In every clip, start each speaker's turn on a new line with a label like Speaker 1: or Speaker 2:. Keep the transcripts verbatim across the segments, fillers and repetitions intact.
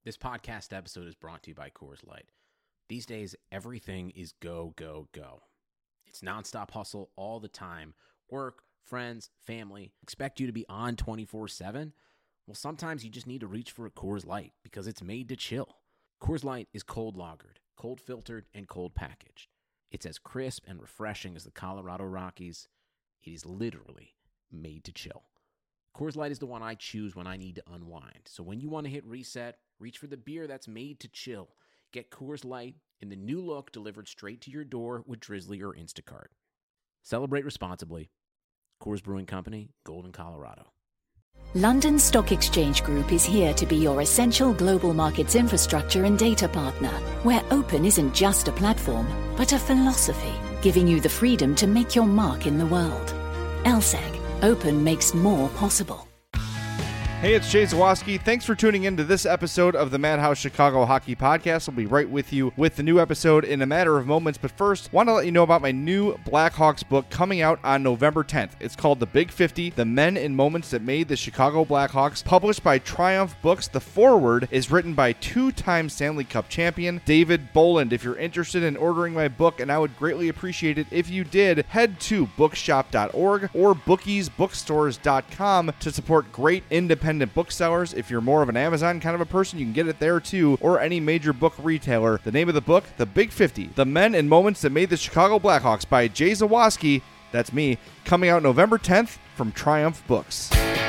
Speaker 1: This podcast episode is brought to you by Coors Light. These days, everything is go, go, go. It's nonstop hustle all the time. Work, friends, family, expect you to be on twenty-four seven. Well, sometimes you just need to reach for a Coors Light because it's made to chill. Coors Light is cold lagered, cold filtered, and cold packaged. It's as crisp and refreshing as the Colorado Rockies. It is literally made to chill. Coors Light is the one I choose when I need to unwind. So when you want to hit reset, reach for the beer that's made to chill. Get Coors Light in the new look delivered straight to your door with Drizzly or Instacart. Celebrate responsibly. Coors Brewing Company, Golden, Colorado.
Speaker 2: London Stock Exchange Group is here to be your essential global markets infrastructure and data partner, where open isn't just a platform, but a philosophy, giving you the freedom to make your mark in the world. L S E G. Open makes more possible.
Speaker 3: Hey, it's Jay Zawaski. Thanks for tuning in to this episode of the Madhouse Chicago Hockey Podcast. I'll be right with you with the new episode in a matter of moments. But first, want to let you know about my new Blackhawks book coming out on November tenth. It's called The Big fifty, The Men and Moments That Made the Chicago Blackhawks, published by Triumph Books. The foreword is written by two-time Stanley Cup champion David Boland. If you're interested in ordering my book, and I would greatly appreciate it if you did, head to bookshop dot org or bookies bookstores dot com to support great independent booksellers. If you're more of an Amazon kind of a person, you can get it there too, or any major book retailer. The name of the book, The Big fifty, The Men and Moments That Made the Chicago Blackhawks by Jay Zawaski, that's me, coming out November tenth from Triumph Books.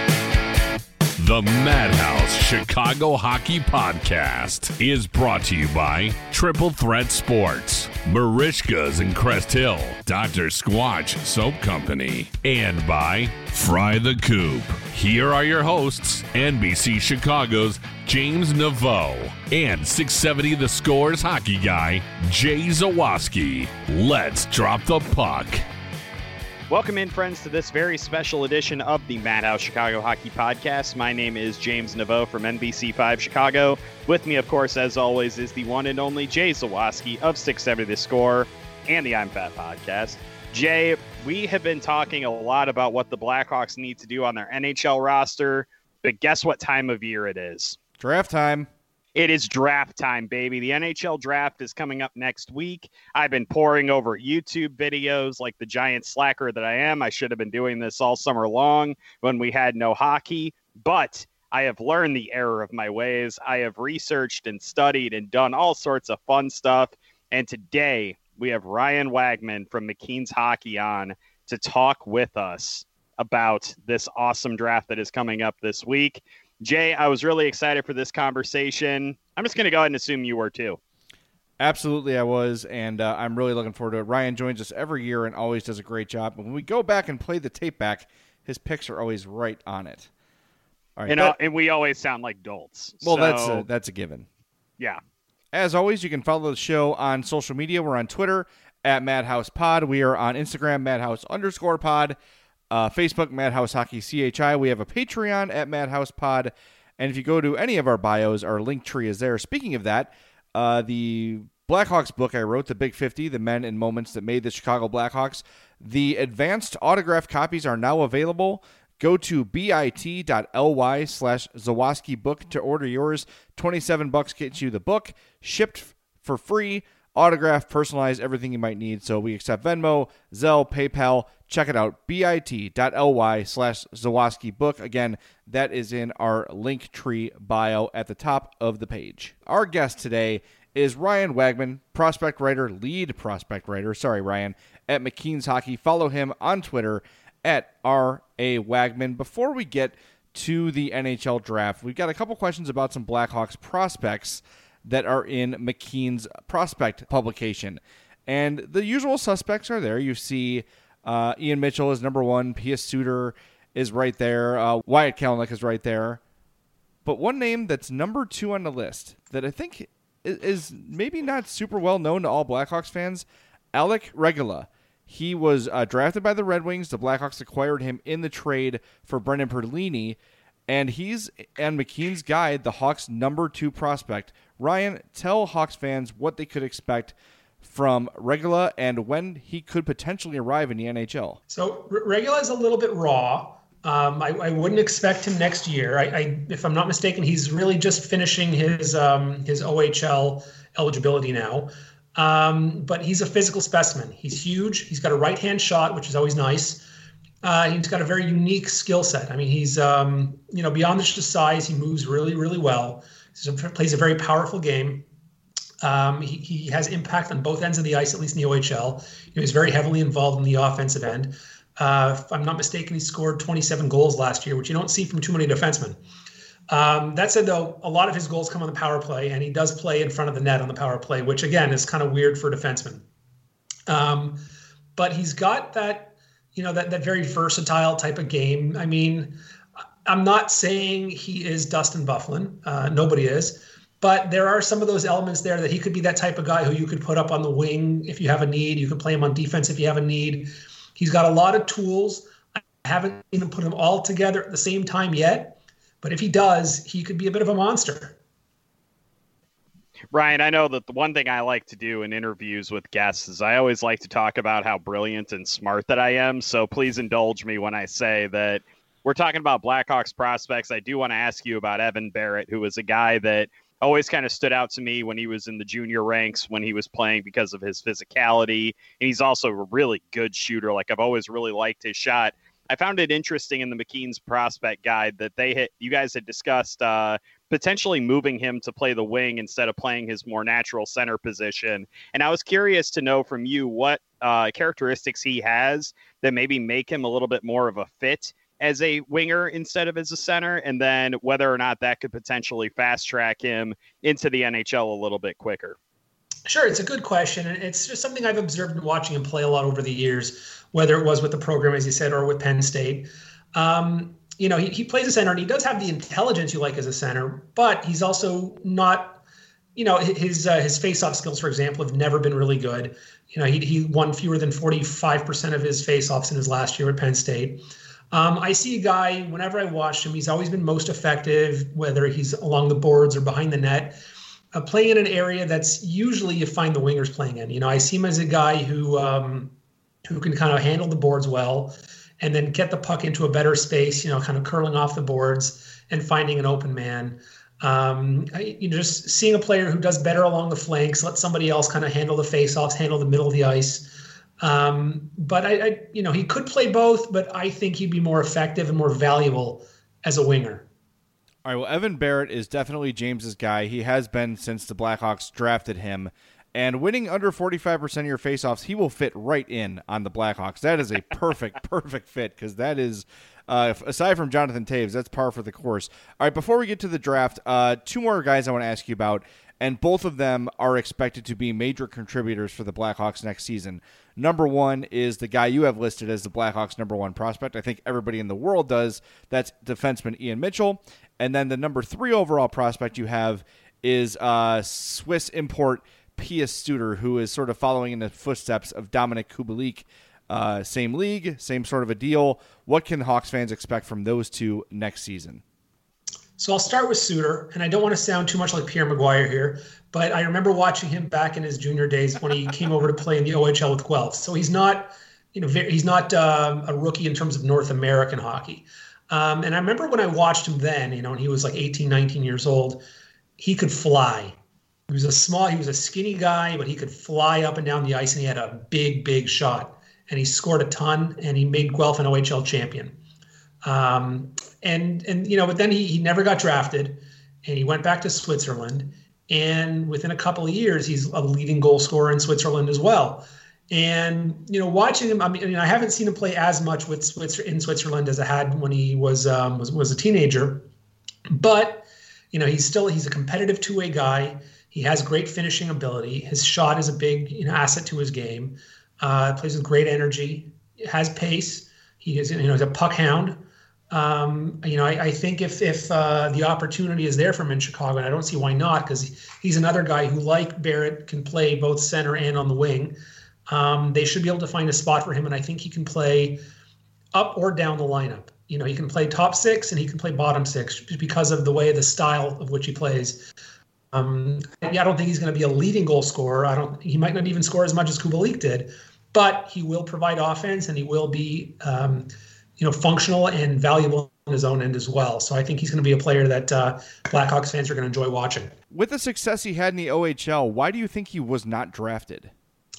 Speaker 4: The Madhouse Chicago Hockey Podcast is brought to you by Triple Threat Sports, Marishka's in Crest Hill, Doctor Squatch Soap Company, and by Fry the Coop. Here are your hosts, N B C Chicago's James Naveau and six seventy The Score's hockey guy, Jay Zawaski. Let's drop the puck.
Speaker 5: Welcome in, friends, to this very special edition of the Madhouse Chicago Hockey Podcast. My name is James Naveau from N B C five Chicago. With me, of course, as always, is the one and only Jay Zawaski of six seventy The Score and the I'm Fat Podcast. Jay, we have been talking a lot about what the Blackhawks need to do on their N H L roster, but guess what time of year it is?
Speaker 3: Draft time.
Speaker 5: It is draft time, baby. The N H L draft is coming up next week. I've been poring over YouTube videos like the giant slacker that I am. I should have been doing this all summer long when we had no hockey, but I have learned the error of my ways. I have researched and studied and done all sorts of fun stuff. And today we have Ryan Wagman from McKeen's Hockey on to talk with us about this awesome draft that is coming up this week. Jay, I was really excited for this conversation. I'm just going to go ahead and assume you were too.
Speaker 3: Absolutely, I was, and uh, I'm really looking forward to it. Ryan joins us every year and always does a great job. But when we go back and play the tape back, his picks are always right on it. All right,
Speaker 5: and,
Speaker 3: that,
Speaker 5: uh, and we always sound like dolts.
Speaker 3: Well,
Speaker 5: so,
Speaker 3: that's a, that's a given.
Speaker 5: Yeah.
Speaker 3: As always, you can follow the show on social media. We're on Twitter at Madhouse Pod. We are on Instagram, Madhouse underscore Pod. Uh, Facebook, Madhouse Hockey C H I. We have a Patreon at Madhouse Pod. And if you go to any of our bios, our link tree is there. Speaking of that, uh, the Blackhawks book I wrote, The Big fifty, The Men and Moments That Made the Chicago Blackhawks, the advanced autograph copies are now available. Go to bit.ly slash Zawaski book to order yours. twenty-seven bucks gets you the book, shipped for free, autograph, personalized, everything you might need. So we accept Venmo, Zelle, PayPal. Check it out, bit.ly slash Zawaski book. Again, that is in our link tree bio at the top of the page. Our guest today is Ryan Wagman, prospect writer, lead prospect writer, sorry, Ryan, at McKeen's Hockey. Follow him on Twitter at R A Wagman. Before we get to the N H L draft, we've got a couple questions about some Blackhawks prospects that are in McKeen's prospect publication. And the usual suspects are there. You see uh, Ian Mitchell is number one. Pius Suter is right there. Uh, Wyatt Kalynuk is right there. But one name that's number two on the list that I think is, is maybe not super well known to all Blackhawks fans, Alec Regula. He was uh, drafted by the Red Wings. The Blackhawks acquired him in the trade for Brendan Perlini. And he's, and McKeen's guide, the Hawks' number two prospect. Ryan, tell Hawks fans what they could expect from Regula and when he could potentially arrive in the N H L.
Speaker 6: So Regula is a little bit raw. Um, I, I wouldn't expect him next year. I, I, if I'm not mistaken, he's really just finishing his um, his O H L eligibility now. Um, but he's a physical specimen. He's huge. He's got a right-hand shot, which is always nice. Uh, he's got a very unique skill set. I mean, he's um, you know beyond just size. He moves really, really well. He plays a very powerful game. Um, he, he has impact on both ends of the ice, at least in the O H L. He was very heavily involved in the offensive end. Uh, if I'm not mistaken, he scored twenty-seven goals last year, which you don't see from too many defensemen. Um, that said, though, a lot of his goals come on the power play, and he does play in front of the net on the power play, which, again, is kind of weird for a defenseman. Um, but he's got that, you know, that, that very versatile type of game. I mean, I'm not saying he is Dustin Byfuglien. Uh, nobody is. But there are some of those elements there that he could be that type of guy who you could put up on the wing if you have a need. You could play him on defense if you have a need. He's got a lot of tools. I haven't even put them all together at the same time yet. But if he does, he could be a bit of a monster.
Speaker 5: Ryan, I know that the one thing I like to do in interviews with guests is I always like to talk about how brilliant and smart that I am. So please indulge me when I say that we're talking about Blackhawks prospects. I do want to ask you about Evan Barratt, who is a guy that always kind of stood out to me when he was in the junior ranks, when he was playing because of his physicality. And he's also a really good shooter. Like, I've always really liked his shot. I found it interesting in the McKeen's prospect guide that they had, you guys had discussed uh, potentially moving him to play the wing instead of playing his more natural center position. And I was curious to know from you what uh, characteristics he has that maybe make him a little bit more of a fit as a winger instead of as a center, and then whether or not that could potentially fast track him into the N H L a little bit quicker.
Speaker 6: Sure, it's a good question, and it's just something I've observed watching him play a lot over the years, whether it was with the program, as you said, or with Penn State. Um, you know, he, he plays a center, and he does have the intelligence you like as a center, but he's also not, you know, his uh, his face-off skills, for example, have never been really good. You know, he he won fewer than forty-five percent of his face-offs in his last year at Penn State. Um, I see a guy, whenever I watch him, he's always been most effective, whether he's along the boards or behind the net, uh, playing in an area that's usually you find the wingers playing in. You know, I see him as a guy who um, who can kind of handle the boards well and then get the puck into a better space, you know, kind of curling off the boards and finding an open man. Um, I, you know, just seeing a player who does better along the flanks, let somebody else kind of handle the faceoffs, handle the middle of the ice. Um, but I, I, you know, he could play both, but I think he'd be more effective and more valuable as a winger.
Speaker 3: All right. Well, Evan Barratt is definitely James's guy. He has been since the Blackhawks drafted him, and winning under forty-five percent of your faceoffs, he will fit right in on the Blackhawks. That is a perfect, perfect fit. Cause that is, uh, aside from Jonathan Toews, that's par for the course. All right. Before we get to the draft, uh, two more guys I want to ask you about. And both of them are expected to be major contributors for the Blackhawks next season. Number one is the guy you have listed as the Blackhawks' number one prospect. I think everybody in the world does. That's defenseman Ian Mitchell. And then the number three overall prospect you have is uh, Swiss import Pius Suter, who is sort of following in the footsteps of Dominik Kubalik. Uh, same league, same sort of a deal. What can Hawks fans expect from those two next season?
Speaker 6: So I'll start with Suter, and I don't want to sound too much like Pierre Maguire here, but I remember watching him back in his junior days when he came over to play in the O H L with Guelph. So he's not, you know, he's not um, a rookie in terms of North American hockey. Um, and I remember when I watched him then, you know, and he was like eighteen, nineteen years old, he could fly. He was a small, he was a skinny guy, but he could fly up and down the ice, and he had a big, big shot. And he scored a ton, and he made Guelph an O H L champion. Um, and, and, you know, but then he, he never got drafted, and he went back to Switzerland. And within a couple of years, he's a leading goal scorer in Switzerland as well. And, you know, watching him, I mean, I, mean, I haven't seen him play as much with Switzer, in Switzerland as I had when he was, um, was, was a teenager. But, you know, he's still, he's a competitive two-way guy. He has great finishing ability. His shot is a big, you know, asset to his game. Uh, plays with great energy, has pace. He is, you know, he's a puck hound. Um, you know, I, I think if if uh, the opportunity is there for him in Chicago, and I don't see why not, because he's another guy who, like Barratt, can play both center and on the wing. Um, they should be able to find a spot for him, and I think he can play up or down the lineup. You know, he can play top six and he can play bottom six because of the way, the style of which he plays. Um, yeah, I don't think he's going to be a leading goal scorer. I don't. He might not even score as much as Kubalik did, but he will provide offense, and he will be. Um, you know, functional and valuable on his own end as well. So I think he's going to be a player that uh, Blackhawks fans are going to enjoy watching.
Speaker 3: With the success he had in the O H L, why do you think he was not drafted?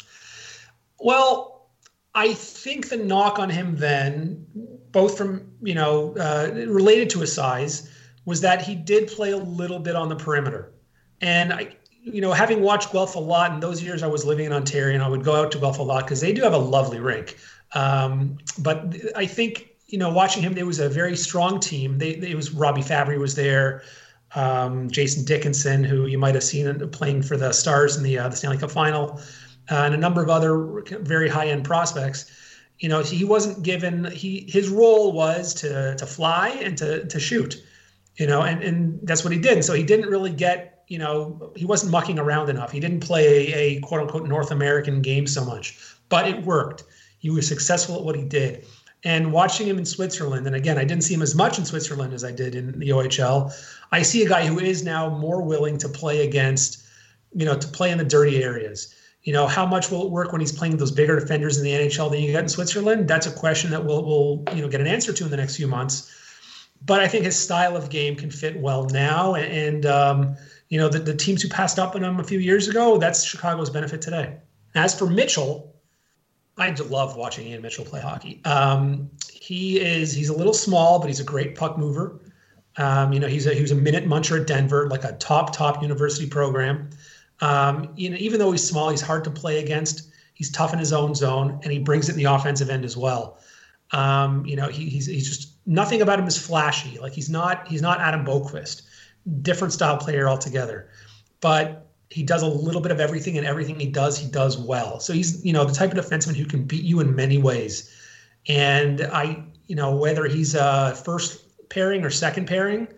Speaker 6: Well, I think the knock on him then, both from, you know, uh, related to his size, was that he did play a little bit on the perimeter. And, I, you know, having watched Guelph a lot, in those years I was living in Ontario, and I would go out to Guelph a lot because they do have a lovely rink. Um, but I think, you know, watching him, it was a very strong team. They, they, it was Robbie Fabry was there, um, Jason Dickinson, who you might have seen playing for the Stars in the, uh, the Stanley Cup Final, uh, and a number of other very high-end prospects. You know, he wasn't given, he his role was to to fly and to to shoot, you know, and, and that's what he did. And so he didn't really get, you know, he wasn't mucking around enough. He didn't play a, a quote-unquote North American game so much, but it worked. He was successful at what he did. And watching him in Switzerland, and again, I didn't see him as much in Switzerland as I did in the O H L. I see a guy who is now more willing to play against, you know, to play in the dirty areas. You know, how much will it work when he's playing those bigger defenders in the N H L than you get in Switzerland? That's a question that we'll, we'll, you know, get an answer to in the next few months. But I think his style of game can fit well now. And, um, you know, the, the teams who passed up on him a few years ago, that's Chicago's benefit today. As for Mitchell, I love watching Ian Mitchell play hockey. Um, he is, he's a little small, but he's a great puck mover. Um, you know, he's a, he was a minute muncher at Denver, like a top, top university program. Um, you know, even though he's small, he's hard to play against. He's tough in his own zone, and he brings it in the offensive end as well. Um, you know, he, he's he's just nothing about him is flashy. Like he's not he's not Adam Boqvist, different style player altogether. But he does a little bit of everything, and everything he does, he does well. So he's, you know, the type of defenseman who can beat you in many ways. And I, you know, whether he's a first pairing or second pairing,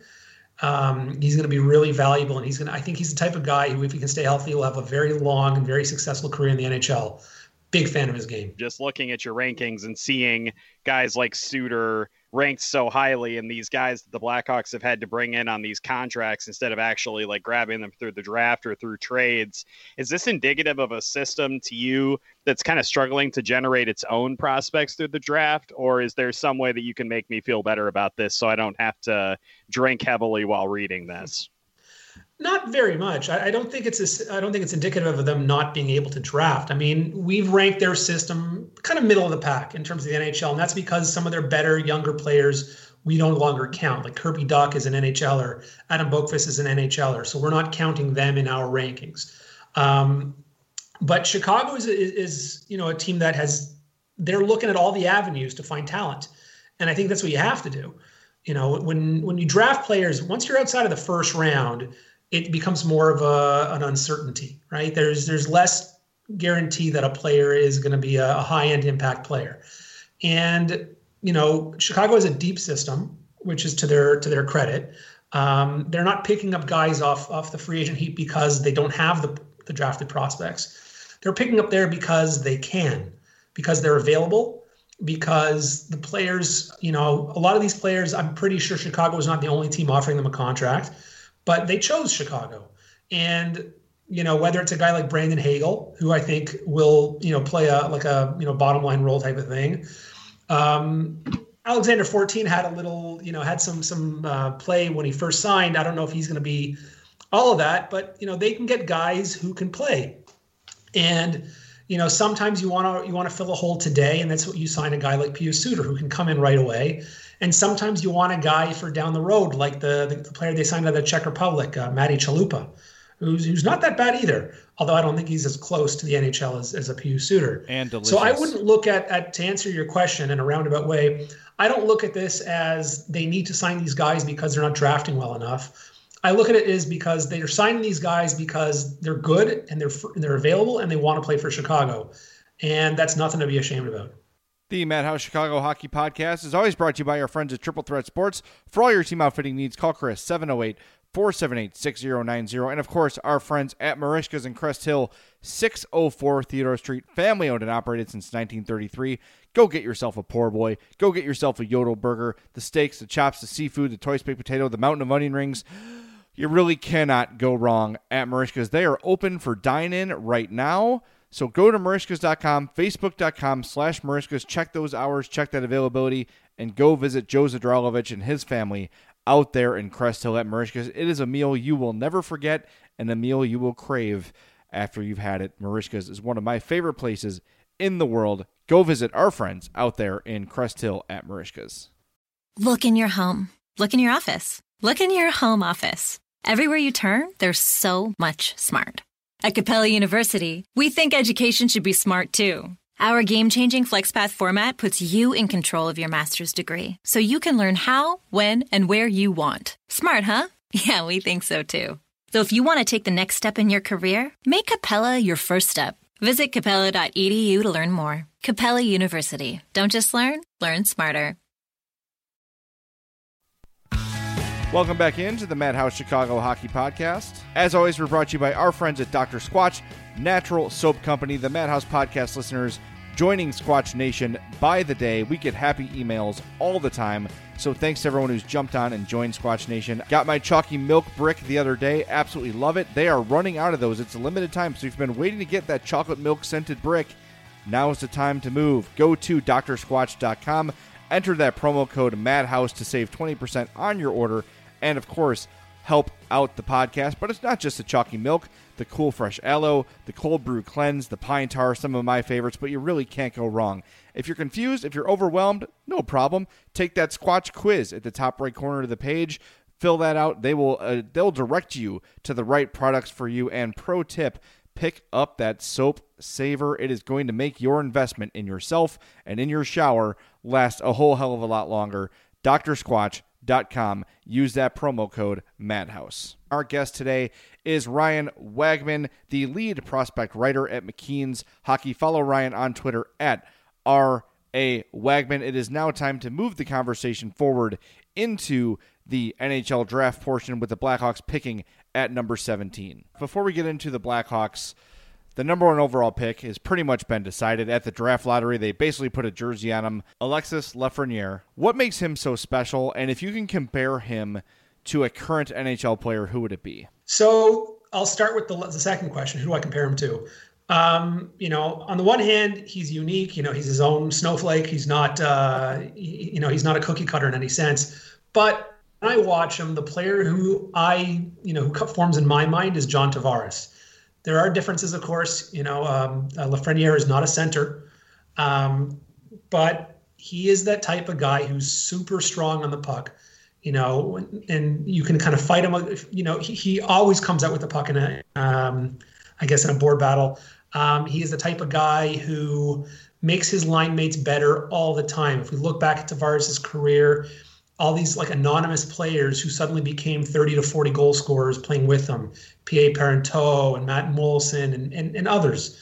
Speaker 6: um, he's going to be really valuable. And he's going to, I think he's the type of guy who, if he can stay healthy, will have a very long and very successful career in the N H L. Big fan of his game.
Speaker 5: Just looking at your rankings and seeing guys like Suter ranked so highly, and these guys that the Blackhawks have had to bring in on these contracts instead of actually like grabbing them through the draft or through trades. Is this indicative of a system to you that's kind of struggling to generate its own prospects through the draft? Or is there some way that you can make me feel better about this so I don't have to drink heavily while reading this?
Speaker 6: Not very much. I, I don't think it's a, I don't think it's indicative of them not being able to draft. I mean, we've ranked their system kind of middle of the pack in terms of the N H L, and that's because some of their better younger players we no longer count. Like Kirby Duck is an N H L er, Adam Boqvist is an N H L er, so we're not counting them in our rankings. Um, but Chicago is, is is you know a team that has they're looking at all the avenues to find talent, and I think that's what you have to do. You know, when when you draft players, once you're outside of the first round, it becomes more of a, an uncertainty, right? There's there's less guarantee that a player is going to be a, a high-end impact player. And, you know, Chicago has a deep system, which is to their to their credit. Um, they're not picking up guys off, off the free agent heap because they don't have the, the drafted prospects. They're picking up there because they can, because they're available, because the players, you know, a lot of these players, I'm pretty sure Chicago is not the only team offering them a contract. But they chose Chicago. And, you know, whether it's a guy like Brandon Hagel, who I think will, you know, play a like a, you know, bottom line role type of thing. Um, Alexander fourteen had a little, you know, had some some uh, play when he first signed. I don't know if he's going to be all of that, but, you know, they can get guys who can play. And, you know, sometimes you want to you want to fill a hole today, and that's what you sign a guy like Pius Suter who can come in right away. And sometimes you want a guy for down the road, like the, the, the player they signed out of the Czech Republic, uh, Matty Chalupa, who's who's not that bad either. Although I don't think he's as close to the N H L as, as a Pius Suter.
Speaker 3: And delicious.
Speaker 6: So I wouldn't look at, at, to answer your question in a roundabout way, I don't look at this as they need to sign these guys because they're not drafting well enough. I look at it as because they're signing these guys because they're good and they're they're available and they want to play for Chicago. And that's nothing to be ashamed about.
Speaker 3: The Madhouse Chicago Hockey Podcast is always brought to you by our friends at Triple Threat Sports. For all your team outfitting needs, call Chris, seven oh eight, four seven eight, six oh nine oh. And, of course, our friends at Marishka's in Crest Hill, six oh four Theodore Street, family-owned and operated since nineteen thirty-three. Go get yourself a poor boy. Go get yourself a Yodel burger, the steaks, the chops, the seafood, the Toy Baked Potato, the mountain of onion rings. You really cannot go wrong at Marishka's. They are open for dine-in right now. So go to marishkas dot com, facebook dot com slash marishkas. Check those hours, check that availability, and go visit Joe Zadralovich and his family out there in Crest Hill at Merichka's. It is a meal you will never forget and a meal you will crave after you've had it. Merichka's is one of my favorite places in the world. Go visit our friends out there in Crest Hill at Merichka's.
Speaker 7: Look in your home. Look in your office. Look in your home office. Everywhere you turn, there's so much smart. At Capella University, we think education should be smart too. Our game-changing FlexPath format puts you in control of your master's degree, so you can learn how, when, and where you want. Smart, huh? Yeah, we think so too. So if you want to take the next step in your career, make Capella your first step. Visit capella dot e d u to learn more. Capella University. Don't just learn, learn smarter.
Speaker 3: Welcome back into the Madhouse Chicago Hockey Podcast. As always, we're brought to you by our friends at Doctor Squatch Natural Soap Company. The Madhouse Podcast listeners joining Squatch Nation by the day. We get happy emails all the time. So thanks to everyone who's jumped on and joined Squatch Nation. Got my chalky milk brick the other day. Absolutely love it. They are running out of those. It's a limited time. So if you've been waiting to get that chocolate milk scented brick, now is the time to move. Go to D R squatch dot com. Enter that promo code MADHOUSE to save twenty percent on your order. And, of course, help out the podcast. But it's not just the chalky milk, the cool fresh aloe, the cold brew cleanse, the pine tar, some of my favorites, but you really can't go wrong. If you're confused, if you're overwhelmed, no problem. Take that Squatch quiz at the top right corner of the page. Fill that out. They will uh, they'll direct you to the right products for you. And pro tip, pick up that soap saver. It is going to make your investment in yourself and in your shower last a whole hell of a lot longer. D R squatch dot com. Use that promo code MADHOUSE. Our guest today is Ryan Wagman, the lead prospect writer at McKeen's Hockey. Follow Ryan on Twitter at R A Wagman. It is now time to move the conversation forward into the N H L draft portion with the Blackhawks picking at number seventeen. Before we get into the Blackhawks, the number one overall pick has pretty much been decided at the draft lottery. They basically put a jersey on him. Alexis Lafreniere. What makes him so special? And if you can compare him to a current N H L player, who would it be?
Speaker 6: So I'll start with the, the second question. Who do I compare him to? Um, you know, on the one hand, he's unique. You know, he's his own snowflake. He's not, uh, he, you know, he's not a cookie cutter in any sense. But when I watch him, the player who I, you know, who forms in my mind is John Tavares. There are differences, of course. You know, um, uh, Lafreniere is not a center, um, but he is that type of guy who's super strong on the puck. You know, and you can kind of fight him. You know, he, he always comes out with the puck in a, um, I guess, in a board battle. Um, he is the type of guy who makes his line mates better all the time. If we look back at Tavares' career, all these like anonymous players who suddenly became thirty to forty goal scorers playing with him, P A Parenteau and Matt Mollison and, and, and others.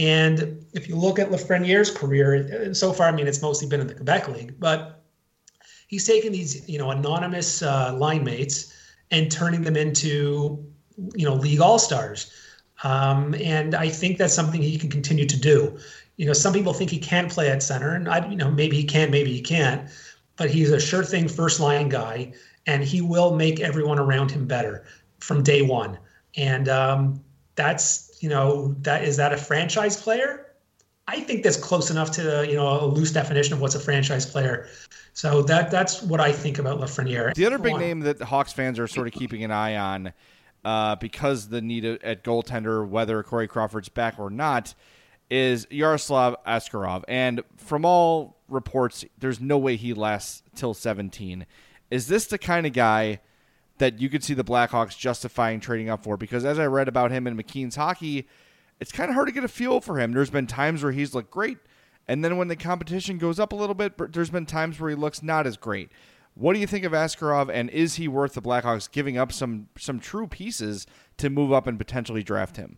Speaker 6: And if you look at Lafreniere's career, and so far, I mean, it's mostly been in the Quebec League, but he's taken these, you know, anonymous uh, line mates and turning them into, you know, league all-stars. Um, and I think that's something he can continue to do. You know, some people think he can play at center, and I, you know, maybe he can, maybe he can't. But he's a sure thing first line guy, and he will make everyone around him better from day one. And um, that's, you know, that is that a franchise player? I think that's close enough to, you know, a loose definition of what's a franchise player. So that that's what I think about Lafreniere.
Speaker 3: The other big name that the Hawks fans are sort of keeping an eye on, uh, because the need at goaltender, whether Corey Crawford's back or not, is Yaroslav Askarov. And from all reports, there's no way he lasts till seventeen. Is this the kind of guy that you could see the Blackhawks justifying trading up for? Because as I read about him in McKeen's Hockey, it's kind of hard to get a feel for him. There's been times where he's looked great, and then when the competition goes up a little bit, there's been times where he looks not as great. What do you think of Askarov, and is he worth the Blackhawks giving up some some true pieces to move up and potentially draft him?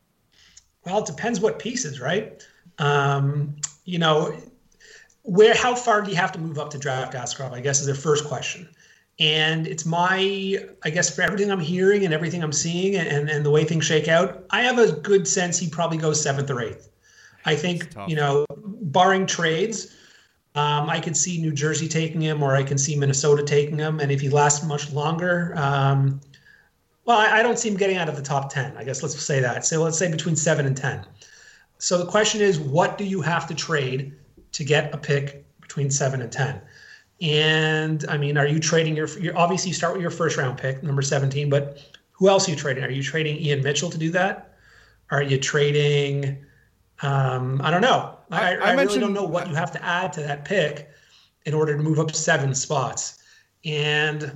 Speaker 6: Well, it depends what pieces, right? Um, you know, where, how far do you have to move up to draft Askarov, I guess, is their first question. And it's my, I guess, for everything I'm hearing and everything I'm seeing and, and the way things shake out, I have a good sense he probably goes seventh or eighth. I think, you know, barring trades, um, I could see New Jersey taking him, or I can see Minnesota taking him. And if he lasts much longer, um, well, I, I don't see him getting out of the top ten. I guess let's say that. So let's say between seven and ten. So the question is, what do you have to trade to get a pick between seven and ten? And I mean, are you trading your, your obviously you start with your first round pick, number seventeen, but who else are you trading? Are you trading Ian Mitchell to do that? Are you trading, um, I don't know. I, I, I really don't know what you have to add to that pick in order to move up seven spots. And,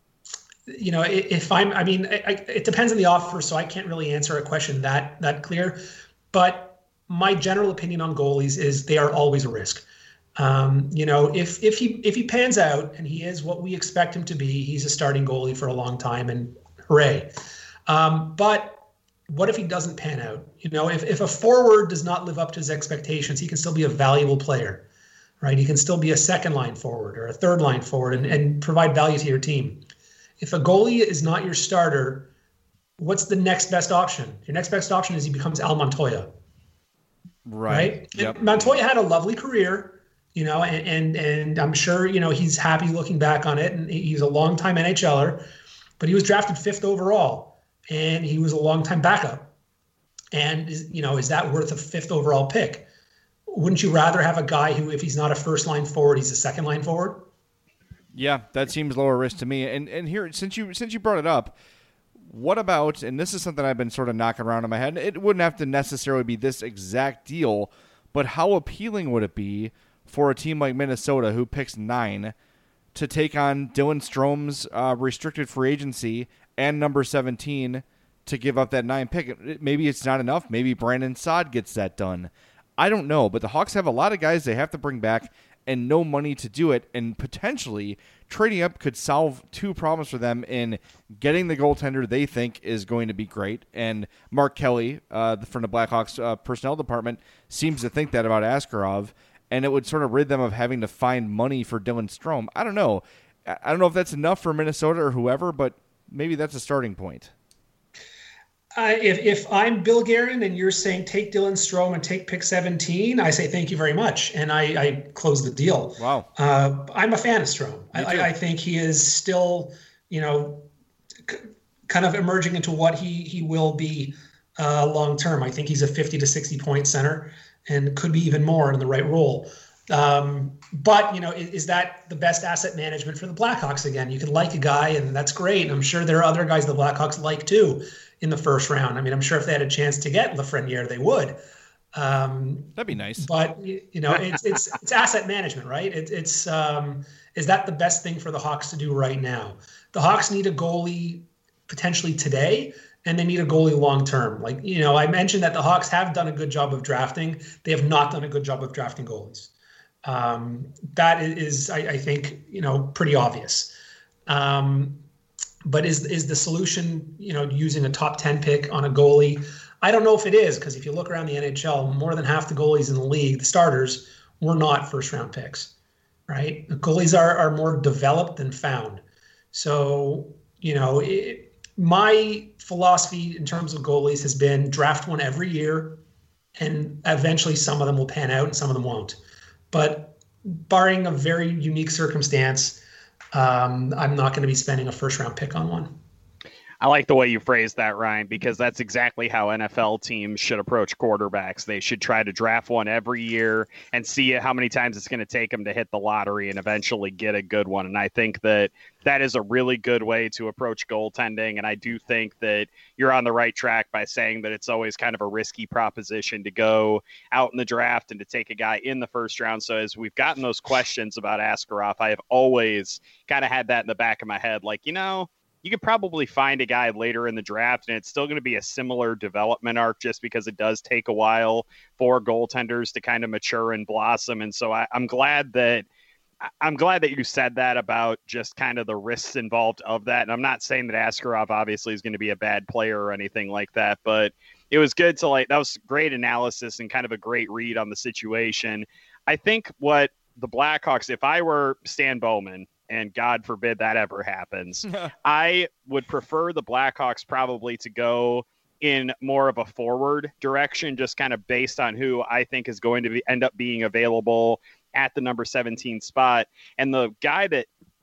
Speaker 6: you know, if I'm, I mean, I, it depends on the offer, so I can't really answer a question that, that clear. But my general opinion on goalies is they are always a risk. Um, you know, if if he if he pans out and he is what we expect him to be, he's a starting goalie for a long time, and hooray. Um, but what if he doesn't pan out? You know, if, if a forward does not live up to his expectations, he can still be a valuable player, right? He can still be a second line forward or a third line forward and, and provide value to your team. If a goalie is not your starter, what's the next best option? Your next best option is he becomes Al Montoya.
Speaker 3: Right.
Speaker 6: right?
Speaker 3: Yep.
Speaker 6: Montoya had a lovely career. You know, and, and and I'm sure, you know, he's happy looking back on it. And he's a longtime NHLer, but he was drafted fifth overall and he was a longtime backup. And, you know, is that worth a fifth overall pick? Wouldn't you rather have a guy who, if he's not a first line forward, he's a second line forward?
Speaker 3: Yeah, that seems lower risk to me. And and here, since you since you brought it up, what about, and this is something I've been sort of knocking around in my head, it wouldn't have to necessarily be this exact deal, but how appealing would it be for a team like Minnesota, who picks nine, to take on Dylan Strome's uh, restricted free agency and number seventeen to give up that nine pick? Maybe it's not enough. Maybe Brandon Saad gets that done. I don't know, but the Hawks have a lot of guys they have to bring back and no money to do it, and potentially trading up could solve two problems for them in getting the goaltender they think is going to be great. And Mark Kelly, uh, from the Blackhawks uh, personnel department, seems to think that about Askarov. And it would sort of rid them of having to find money for Dylan Strome. I don't know. I don't know if that's enough for Minnesota or whoever, but maybe that's a starting point.
Speaker 6: Uh, if, if I'm Bill Guerin and you're saying take Dylan Strome and take pick seventeen, I say thank you very much. And I, I close the deal.
Speaker 3: Wow.
Speaker 6: Uh, I'm a fan of Strome. I, I, I think he is still, you know, c- kind of emerging into what he, he will be uh, long term. I think he's a fifty to sixty point center and could be even more in the right role. Um, but, you know, is, is that the best asset management for the Blackhawks? Again, you could like a guy, and that's great. And I'm sure there are other guys the Blackhawks like too in the first round. I mean, I'm sure if they had a chance to get Lafreniere, they would. Um,
Speaker 3: That'd be nice.
Speaker 6: But, you know, it's it's it's asset management, right? It, it's um, is that the best thing for the Hawks to do right now? The Hawks need a goalie potentially today, and they need a goalie long-term. Like, you know, I mentioned that the Hawks have done a good job of drafting. They have not done a good job of drafting goalies. Um, that is, I, I think, you know, pretty obvious. Um, but is is the solution, you know, using a top ten pick on a goalie? I don't know if it is, because if you look around the N H L, more than half the goalies in the league, the starters, were not first-round picks, right? The goalies are, are more developed than found. So, you know, it, my philosophy in terms of goalies has been draft one every year, and eventually some of them will pan out and some of them won't. But barring a very unique circumstance, um, I'm not going to be spending a first round pick on one.
Speaker 5: I like the way you phrased that, Ryan, because that's exactly how N F L teams should approach quarterbacks. They should try to draft one every year and see how many times it's going to take them to hit the lottery and eventually get a good one. And I think that that is a really good way to approach goaltending. And I do think that you're on the right track by saying that it's always kind of a risky proposition to go out in the draft and to take a guy in the first round. So as we've gotten those questions about Askarov, I have always kind of had that in the back of my head. Like, you know, you could probably find a guy later in the draft, and it's still going to be a similar development arc just because it does take a while for goaltenders to kind of mature and blossom. And so I, I'm glad that I'm glad that you said that about just kind of the risks involved of that. And I'm not saying that Askarov obviously is going to be a bad player or anything like that, but it was good to like, that was great analysis and kind of a great read on the situation. I think what the Blackhawks, if I were Stan Bowman, and God forbid that ever happens, I would prefer the Blackhawks probably to go in more of a forward direction, just kind of based on who I think is going to be, end up being available at the number seventeen spot. And the guy that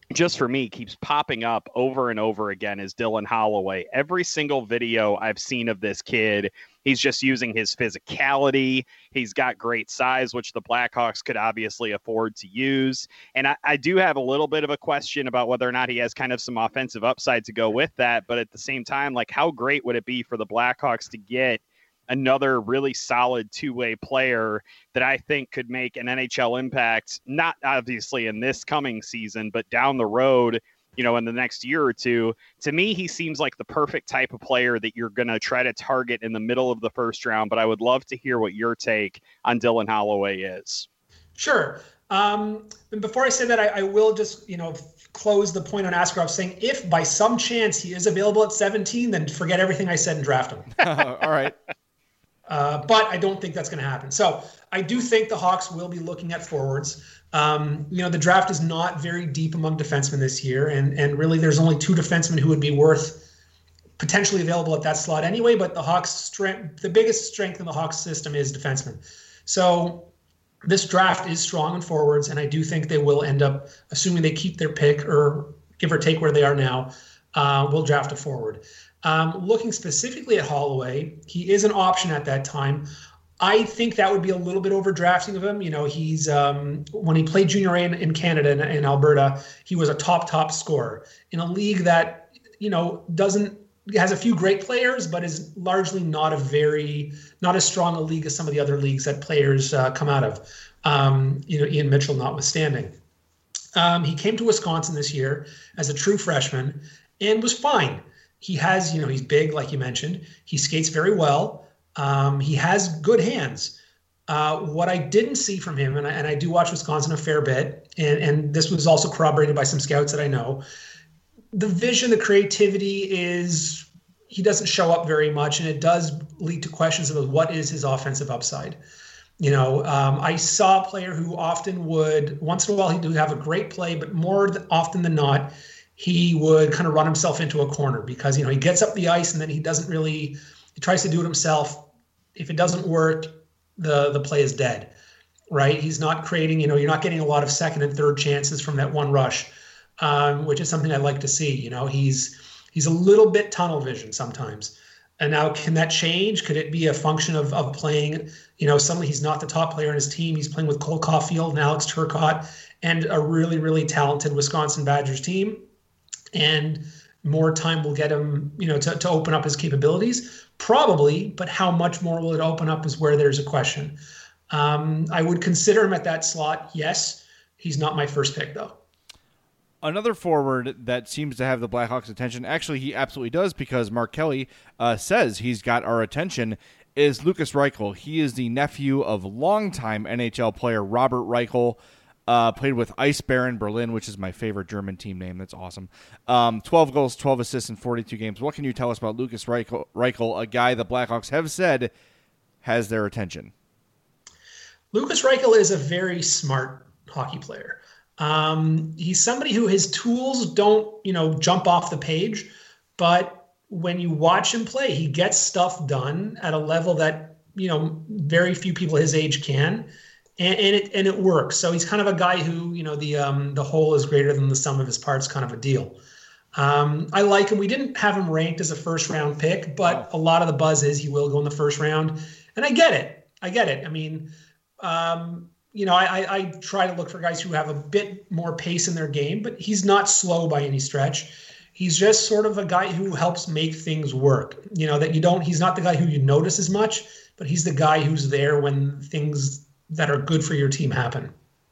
Speaker 5: just for me, keeps popping up over and over again is Dylan Holloway. Every single video I've seen of this kid, he's just using his physicality. He's got great size, which the Blackhawks could obviously afford to use. And I, I do have a little bit of a question about whether or not he has kind of some offensive upside to go with that. But at the same time, like, how great would it be for the Blackhawks to get another really solid two-way player that I think could make an N H L impact, not obviously in this coming season, but down the road, you know, in the next year or two. To me, he seems like the perfect type of player that you're going to try to target in the middle of the first round. But I would love to hear what your take on Dylan Holloway is.
Speaker 6: Sure. Um, and before I say that, I, I will just, you know, close the point on Askarov saying if by some chance he is available at seventeen, then forget everything I said and draft him.
Speaker 3: All right.
Speaker 6: Uh, but I don't think that's going to happen. So I do think the Hawks will be looking at forwards. Um, you know, the draft is not very deep among defensemen this year. And, and really there's only two defensemen who would be worth potentially available at that slot anyway. But the Hawks strength, the biggest strength in the Hawks system is defensemen. So this draft is strong in forwards. And I do think they will end up, assuming they keep their pick or give or take where they are now, uh, will draft a forward. Um, looking specifically at Holloway, he is an option at that time. I think that would be a little bit overdrafting of him. You know, he's um, when he played junior A in, in Canada and in, in Alberta, he was a top, top scorer in a league that, you know, doesn't has a few great players, but is largely not a very, not as strong a league as some of the other leagues that players uh, come out of, um, you know, Ian Mitchell notwithstanding. Um, he came to Wisconsin this year as a true freshman and was fine. He has, you know, he's big, like you mentioned. He skates very well. Um, he has good hands. Uh, what I didn't see from him, and I, and I do watch Wisconsin a fair bit, and, and this was also corroborated by some scouts that I know, the vision, the creativity is, he doesn't show up very much, and it does lead to questions of what is his offensive upside. You know, um, I saw a player who often would, once in a while, he would have a great play, but more often than not, he would kind of run himself into a corner because, you know, he gets up the ice and then he doesn't really, he tries to do it himself. If it doesn't work, the the play is dead, right? He's not creating, you know, you're not getting a lot of second and third chances from that one rush, um, which is something I like to see. You know, he's he's a little bit tunnel vision sometimes. And now can that change? Could it be a function of of playing, you know, suddenly he's not the top player in his team. He's playing with Cole Caulfield and Alex Turcotte and a really, really talented Wisconsin Badgers team. And more time will get him, you know, to, to open up his capabilities? Probably, but how much more will it open up is where there's a question. Um, I would consider him at that slot, yes. He's not my first pick, though.
Speaker 3: Another forward that seems to have the Blackhawks' attention, actually he absolutely does because Mark Kelly uh, says he's got our attention, is Lukas Reichel. He is the nephew of longtime N H L player Robert Reichel. Uh, played with Eisbären Berlin, which is my favorite German team name. That's awesome. Um, twelve goals, twelve assists in forty-two games. What can you tell us about Lukas Reichel, Reichel, a guy the Blackhawks have said has their attention?
Speaker 6: Lukas Reichel is a very smart hockey player. Um, he's somebody who his tools don't, you know, jump off the page, but when you watch him play, he gets stuff done at a level that, you know, very few people his age can. And, and it and it works. So he's kind of a guy who, you know, the um, the whole is greater than the sum of his parts kind of a deal. Um, I like him. We didn't have him ranked as a first round pick, but a lot of the buzz is he will go in the first round. And I get it. I get it. I mean, um, you know, I, I, I try to look for guys who have a bit more pace in their game, but he's not slow by any stretch. He's just sort of a guy who helps make things work. You know, that you don't, he's not the guy who you notice as much, but he's the guy who's there when things that are good for your team happen.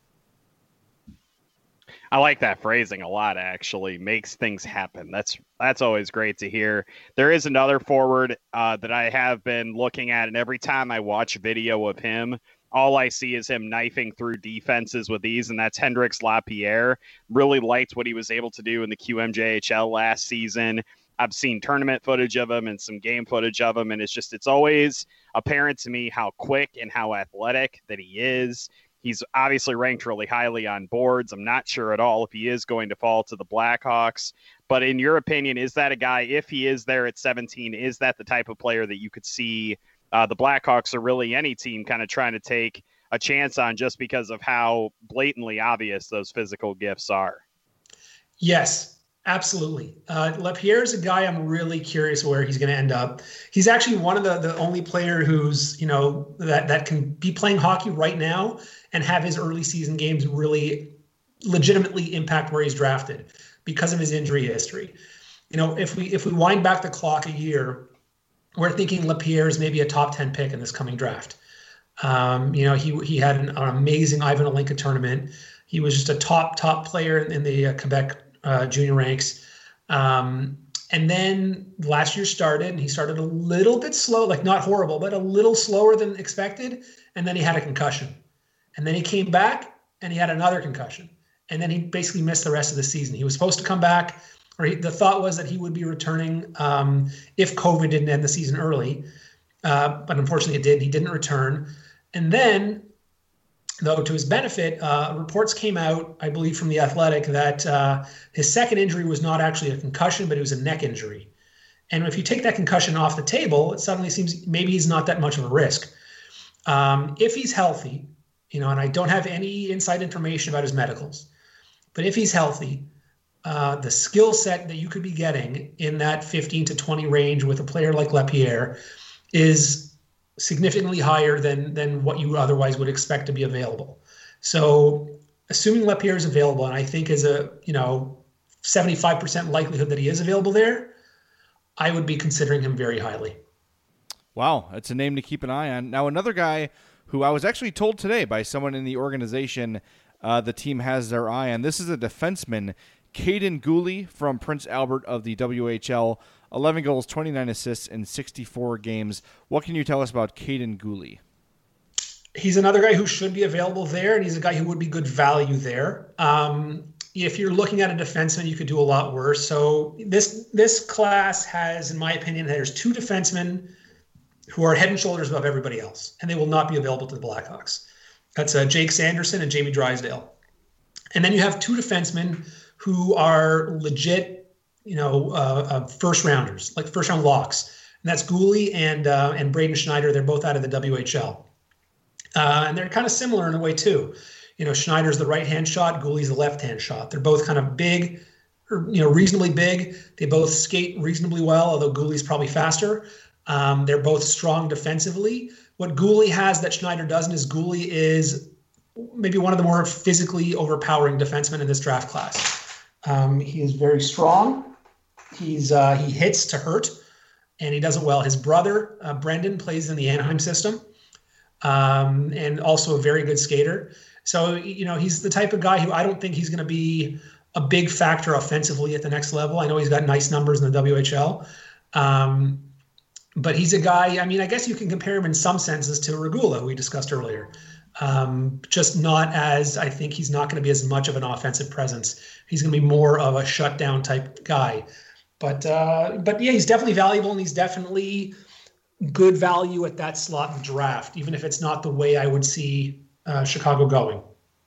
Speaker 5: I like that phrasing a lot, actually. Makes things happen. That's that's always great to hear. There is another forward uh, that I have been looking at, and every time I watch video of him, all I see is him knifing through defenses with ease, and that's Hendrix Lapierre. Really liked what he was able to do in the Q M J H L last season. I've seen tournament footage of him and some game footage of him, and it's just, it's always apparent to me how quick and how athletic that he is. He's obviously ranked really highly on boards. I'm not sure at all if he is going to fall to the Blackhawks, but in your opinion, is that a guy, if he is there at seventeen, is that the type of player that you could see uh, the Blackhawks or really any team kind of trying to take a chance on just because of how blatantly obvious those physical gifts are?
Speaker 6: Yes, absolutely. Uh, Lapierre is a guy I'm really curious where he's going to end up. He's actually one of the, the only player who's, you know, that, that can be playing hockey right now and have his early season games really legitimately impact where he's drafted because of his injury history. You know, if we if we wind back the clock a year, we're thinking Lapierre is maybe a top ten pick in this coming draft. Um, you know, he he had an, an amazing Ivan Olinka tournament. He was just a top, top player in, in the uh, Quebec uh, junior ranks. Um, and then last year started, and he started a little bit slow, like not horrible, but a little slower than expected. And then he had a concussion. And then he came back, and he had another concussion. And then he basically missed the rest of the season. He was supposed to come back, or he, the thought was that he would be returning um, if COVID didn't end the season early. Uh, but unfortunately it did. He didn't return. And then, though, to his benefit, uh, reports came out, I believe, from The Athletic that uh, his second injury was not actually a concussion, but it was a neck injury. And if you take that concussion off the table, it suddenly seems maybe he's not that much of a risk. Um, if he's healthy, you know, and I don't have any inside information about his medicals, but if he's healthy, uh, the skill set that you could be getting in that fifteen to twenty range with a player like Lapierre is significantly higher than than what you otherwise would expect to be available. So assuming Lapierre is available, and I think is a, you know, seventy-five percent likelihood that he is available there, I would be considering him very highly.
Speaker 3: Wow, that's a name to keep an eye on. Now, another guy who I was actually told today by someone in the organization uh, the team has their eye on, this is a defenseman, Kaiden Guhle from Prince Albert of the W H L. eleven goals, twenty-nine assists in sixty-four games. What can you tell us about Kaiden Guhle?
Speaker 6: He's another guy who should be available there, and he's a guy who would be good value there. Um, if you're looking at a defenseman, you could do a lot worse. So this this class has, in my opinion, there's two defensemen who are head and shoulders above everybody else, and they will not be available to the Blackhawks. That's uh, Jake Sanderson and Jamie Drysdale. And then you have two defensemen who are legit, you know, uh, uh, first rounders, like first round locks. And that's Guhle and uh, and Braden Schneider. They're both out of the W H L. Uh, and they're kind of similar in a way too. You know, Schneider's the right-hand shot, Guhle's the left-hand shot. They're both kind of big, or, you know, reasonably big. They both skate reasonably well, although Guhle's probably faster. Um, they're both strong defensively. What Guhle has that Schneider doesn't is Guhle is maybe one of the more physically overpowering defensemen in this draft class. Um, he is very strong. He's uh, he hits to hurt, and he does it well. His brother, uh, Brendan, plays in the Anaheim system, um, and also a very good skater. So, you know, he's the type of guy who I don't think he's going to be a big factor offensively at the next level. I know he's got nice numbers in the W H L. Um, but he's a guy, I mean, I guess you can compare him in some senses to Regula, who we discussed earlier. Um, just not as, I think he's not going to be as much of an offensive presence. He's going to be more of a shutdown type guy. But, uh, but yeah, he's definitely valuable, and he's definitely good value at that slot in the draft, even if it's not the way I would see Uh, Chicago going.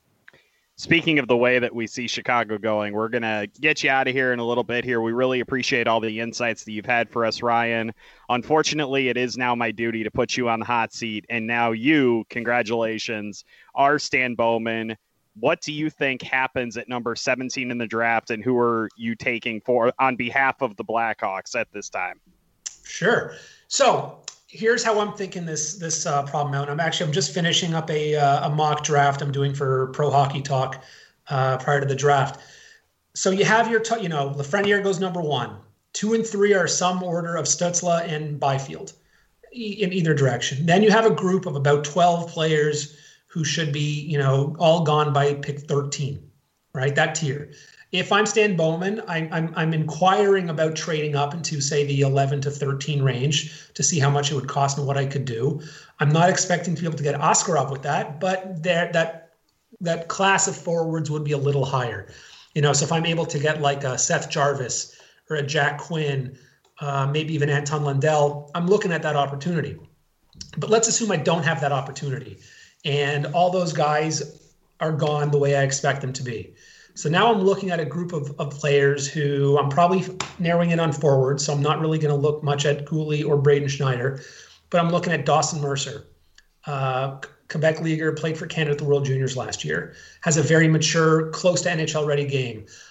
Speaker 5: Speaking of the way that we see Chicago going, we're going to get you out of here in a little bit here. We really appreciate all the insights that you've had for us, Ryan. Unfortunately, it is now my duty to put you on the hot seat. And now you, congratulations, are Stan Bowman. What do you think happens at number seventeen in the draft, and who are you taking for on behalf of the Blackhawks at this time?
Speaker 6: Sure. So here's how I'm thinking this this uh, problem out. I'm actually I'm just finishing up a uh, a mock draft I'm doing for Pro Hockey Talk uh, prior to the draft. So you have your t- you know Lafreniere goes number one, two and three are some order of Stützle and Byfield e- in either direction. Then you have a group of about twelve players who should be you know all gone by pick thirteen, right? That tier. If I'm Stan Bowman, I'm, I'm I'm inquiring about trading up into, say, the eleven to thirteen range to see how much it would cost and what I could do. I'm not expecting to be able to get Askarov with that, but there that that class of forwards would be a little higher. You know, so if I'm able to get like a Seth Jarvis or a Jack Quinn, uh, maybe even Anton Lundell, I'm looking at that opportunity. But let's assume I don't have that opportunity, and all those guys are gone the way I expect them to be. So now I'm looking at a group of, of players who I'm probably narrowing in on forward, so I'm not really going to look much at Guhle or Braden Schneider, but I'm looking at Dawson Mercer. Uh, Quebec Leaguer, played for Canada at the World Juniors last year, has a very mature, close to N H L ready game.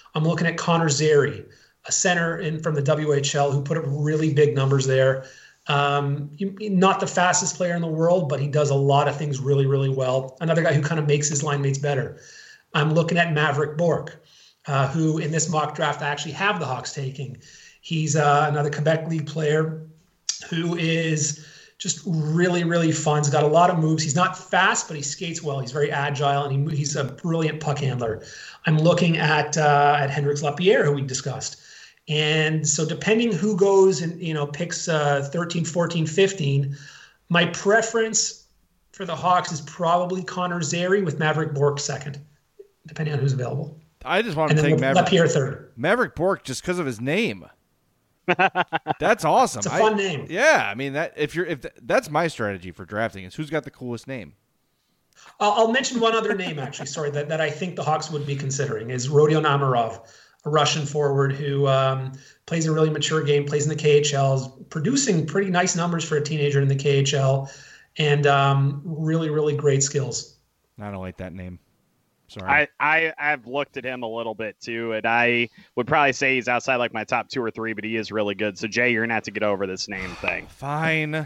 Speaker 6: I'm looking at Connor Zary, a center in from the W H L who put up really big numbers there. Um, not the fastest player in the world, but he does a lot of things really, really well. Another guy who kind of makes his line mates better. I'm looking at Maverick Bourque, uh, who in this mock draft I actually have the Hawks taking. He's uh, another Quebec League player who is just really, really fun. He's got a lot of moves. He's not fast, but he skates well. He's very agile, and he, he's a brilliant puck handler. I'm looking at uh, at Hendrix Lapierre, who we discussed. And so depending who goes and, you know, picks uh, thirteen, fourteen, fifteen, my preference for the Hawks is probably Connor Zary with Maverick Bourque second, depending on who's available.
Speaker 3: I just want
Speaker 6: and
Speaker 3: to
Speaker 6: then
Speaker 3: take Maverick,
Speaker 6: Lapierre third.
Speaker 3: Maverick Bourque just because of his name. That's awesome.
Speaker 6: It's a fun
Speaker 3: I,
Speaker 6: name.
Speaker 3: Yeah, I mean that if you're if th- that's my strategy for drafting is who's got the coolest name.
Speaker 6: I'll, I'll mention one other name actually. Sorry, that, that I think the Hawks would be considering is Rodion Amirov, a Russian forward who um, plays a really mature game, plays in the K H L, is producing pretty nice numbers for a teenager in the K H L, and um, really, really great skills.
Speaker 3: I don't like that name. Sorry.
Speaker 5: I, I, I've looked at him a little bit too, and I would probably say he's outside like my top two or three, but he is really good. So, Jay, you're going to have to get over this name thing.
Speaker 3: Fine.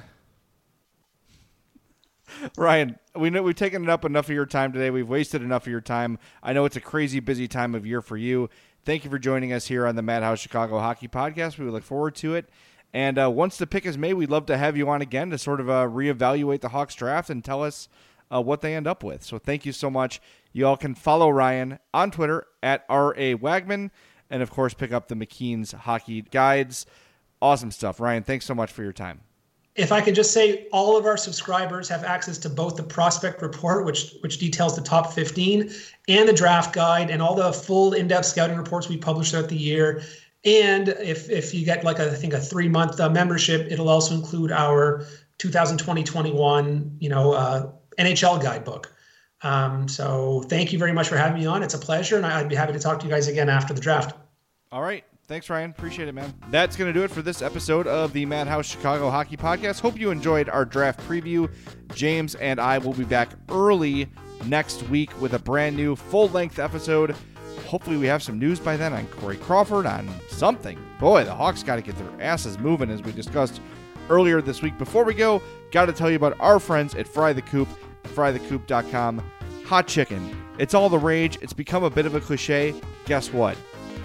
Speaker 3: Ryan, we know we've taken up enough of your time today. We've wasted enough of your time. I know it's a crazy busy time of year for you. Thank you for joining us here on the Madhouse Chicago Hockey Podcast. We look forward to it. And uh, once the pick is made, we'd love to have you on again to sort of uh, reevaluate the Hawks draft and tell us uh, what they end up with. So thank you so much. You all can follow Ryan on Twitter at R A Wagman and, of course, pick up the McKean's Hockey Guides. Awesome stuff. Ryan, thanks so much for your time.
Speaker 6: If I could just say, all of our subscribers have access to both the prospect report, which which details the top fifteen, and the draft guide, and all the full in-depth scouting reports we publish throughout the year. And if if you get like a, I think a three month uh, membership, it'll also include our two thousand twenty twenty-one, you know, uh, N H L guidebook. Um, so thank you very much for having me on. It's a pleasure, and I'd be happy to talk to you guys again after the draft.
Speaker 3: All right. Thanks, Ryan. Appreciate it, man. That's going to do it for this episode of the Madhouse Chicago Hockey Podcast. Hope you enjoyed our draft preview. James and I will be back early next week with a brand new full-length episode. Hopefully we have some news by then on Corey Crawford, on something. Boy, the Hawks got to get their asses moving, as we discussed earlier this week. Before we go, got to tell you about our friends at Fry the Coop, fry the coop dot com. Hot chicken. It's all the rage. It's become a bit of a cliche. Guess what?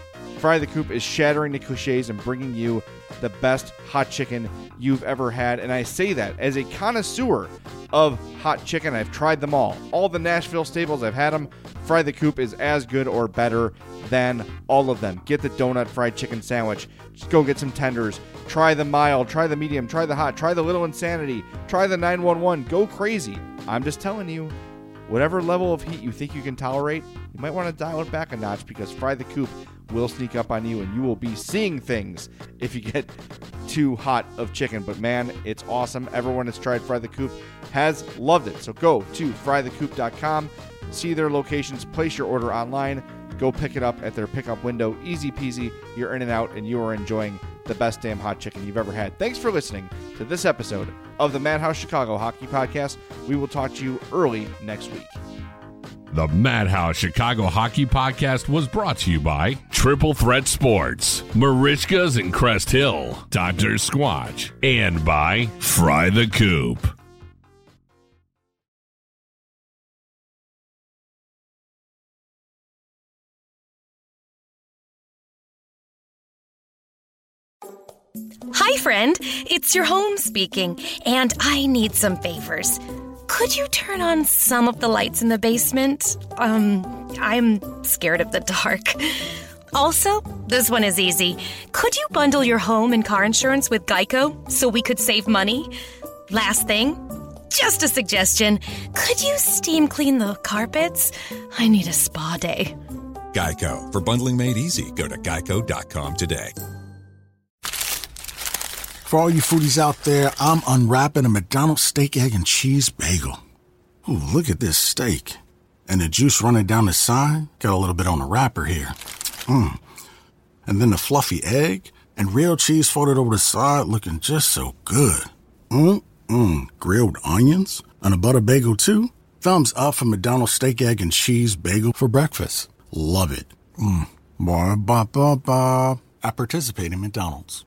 Speaker 3: Fry the Coop is shattering the cliches and bringing you the best hot chicken you've ever had. And I say that as a connoisseur of hot chicken. I've tried them all. All the Nashville staples, I've had them. Fry the Coop is as good or better than all of them. Get the donut fried chicken sandwich. Just go get some tenders. Try the mild. Try the medium. Try the hot. Try the little insanity. Try the nine one one. Go crazy. I'm just telling you, whatever level of heat you think you can tolerate, you might want to dial it back a notch, because Fry the Coop will sneak up on you and you will be seeing things if you get too hot of chicken. But man, it's awesome. Everyone that's tried Fry the Coop has loved it. So go to fry the coop dot com, see their locations, place your order online, go pick it up at their pickup window. Easy peasy. You're in and out, and you are enjoying the best damn hot chicken you've ever had. Thanks for listening to this episode of the Madhouse Chicago Hockey Podcast. We will talk to you early next week.
Speaker 4: The Madhouse Chicago Hockey Podcast was brought to you by Triple Threat Sports, Marishka's in Crest Hill, Doctor Squatch, and by Fry the Coop.
Speaker 8: Hi, friend. It's your home speaking, and I need some favors. Could you turn on some of the lights in the basement? Um, I'm scared of the dark. Also, this one is easy. Could you bundle your home and car insurance with Geico so we could save money? Last thing, just a suggestion. Could you steam clean the carpets? I need a spa day.
Speaker 9: Geico. For bundling made easy, go to geico dot com today.
Speaker 10: For all you foodies out there, I'm unwrapping a McDonald's steak, egg, and cheese bagel. Ooh, look at this steak. And the juice running down the side, got a little bit on the wrapper here. Mmm. And then the fluffy egg and real cheese folded over the side, looking just so good. Mmm-mmm. Grilled onions and a butter bagel too. Thumbs up for McDonald's steak, egg, and cheese bagel for breakfast. Love it. Mmm. Ba ba ba ba. At participating McDonald's.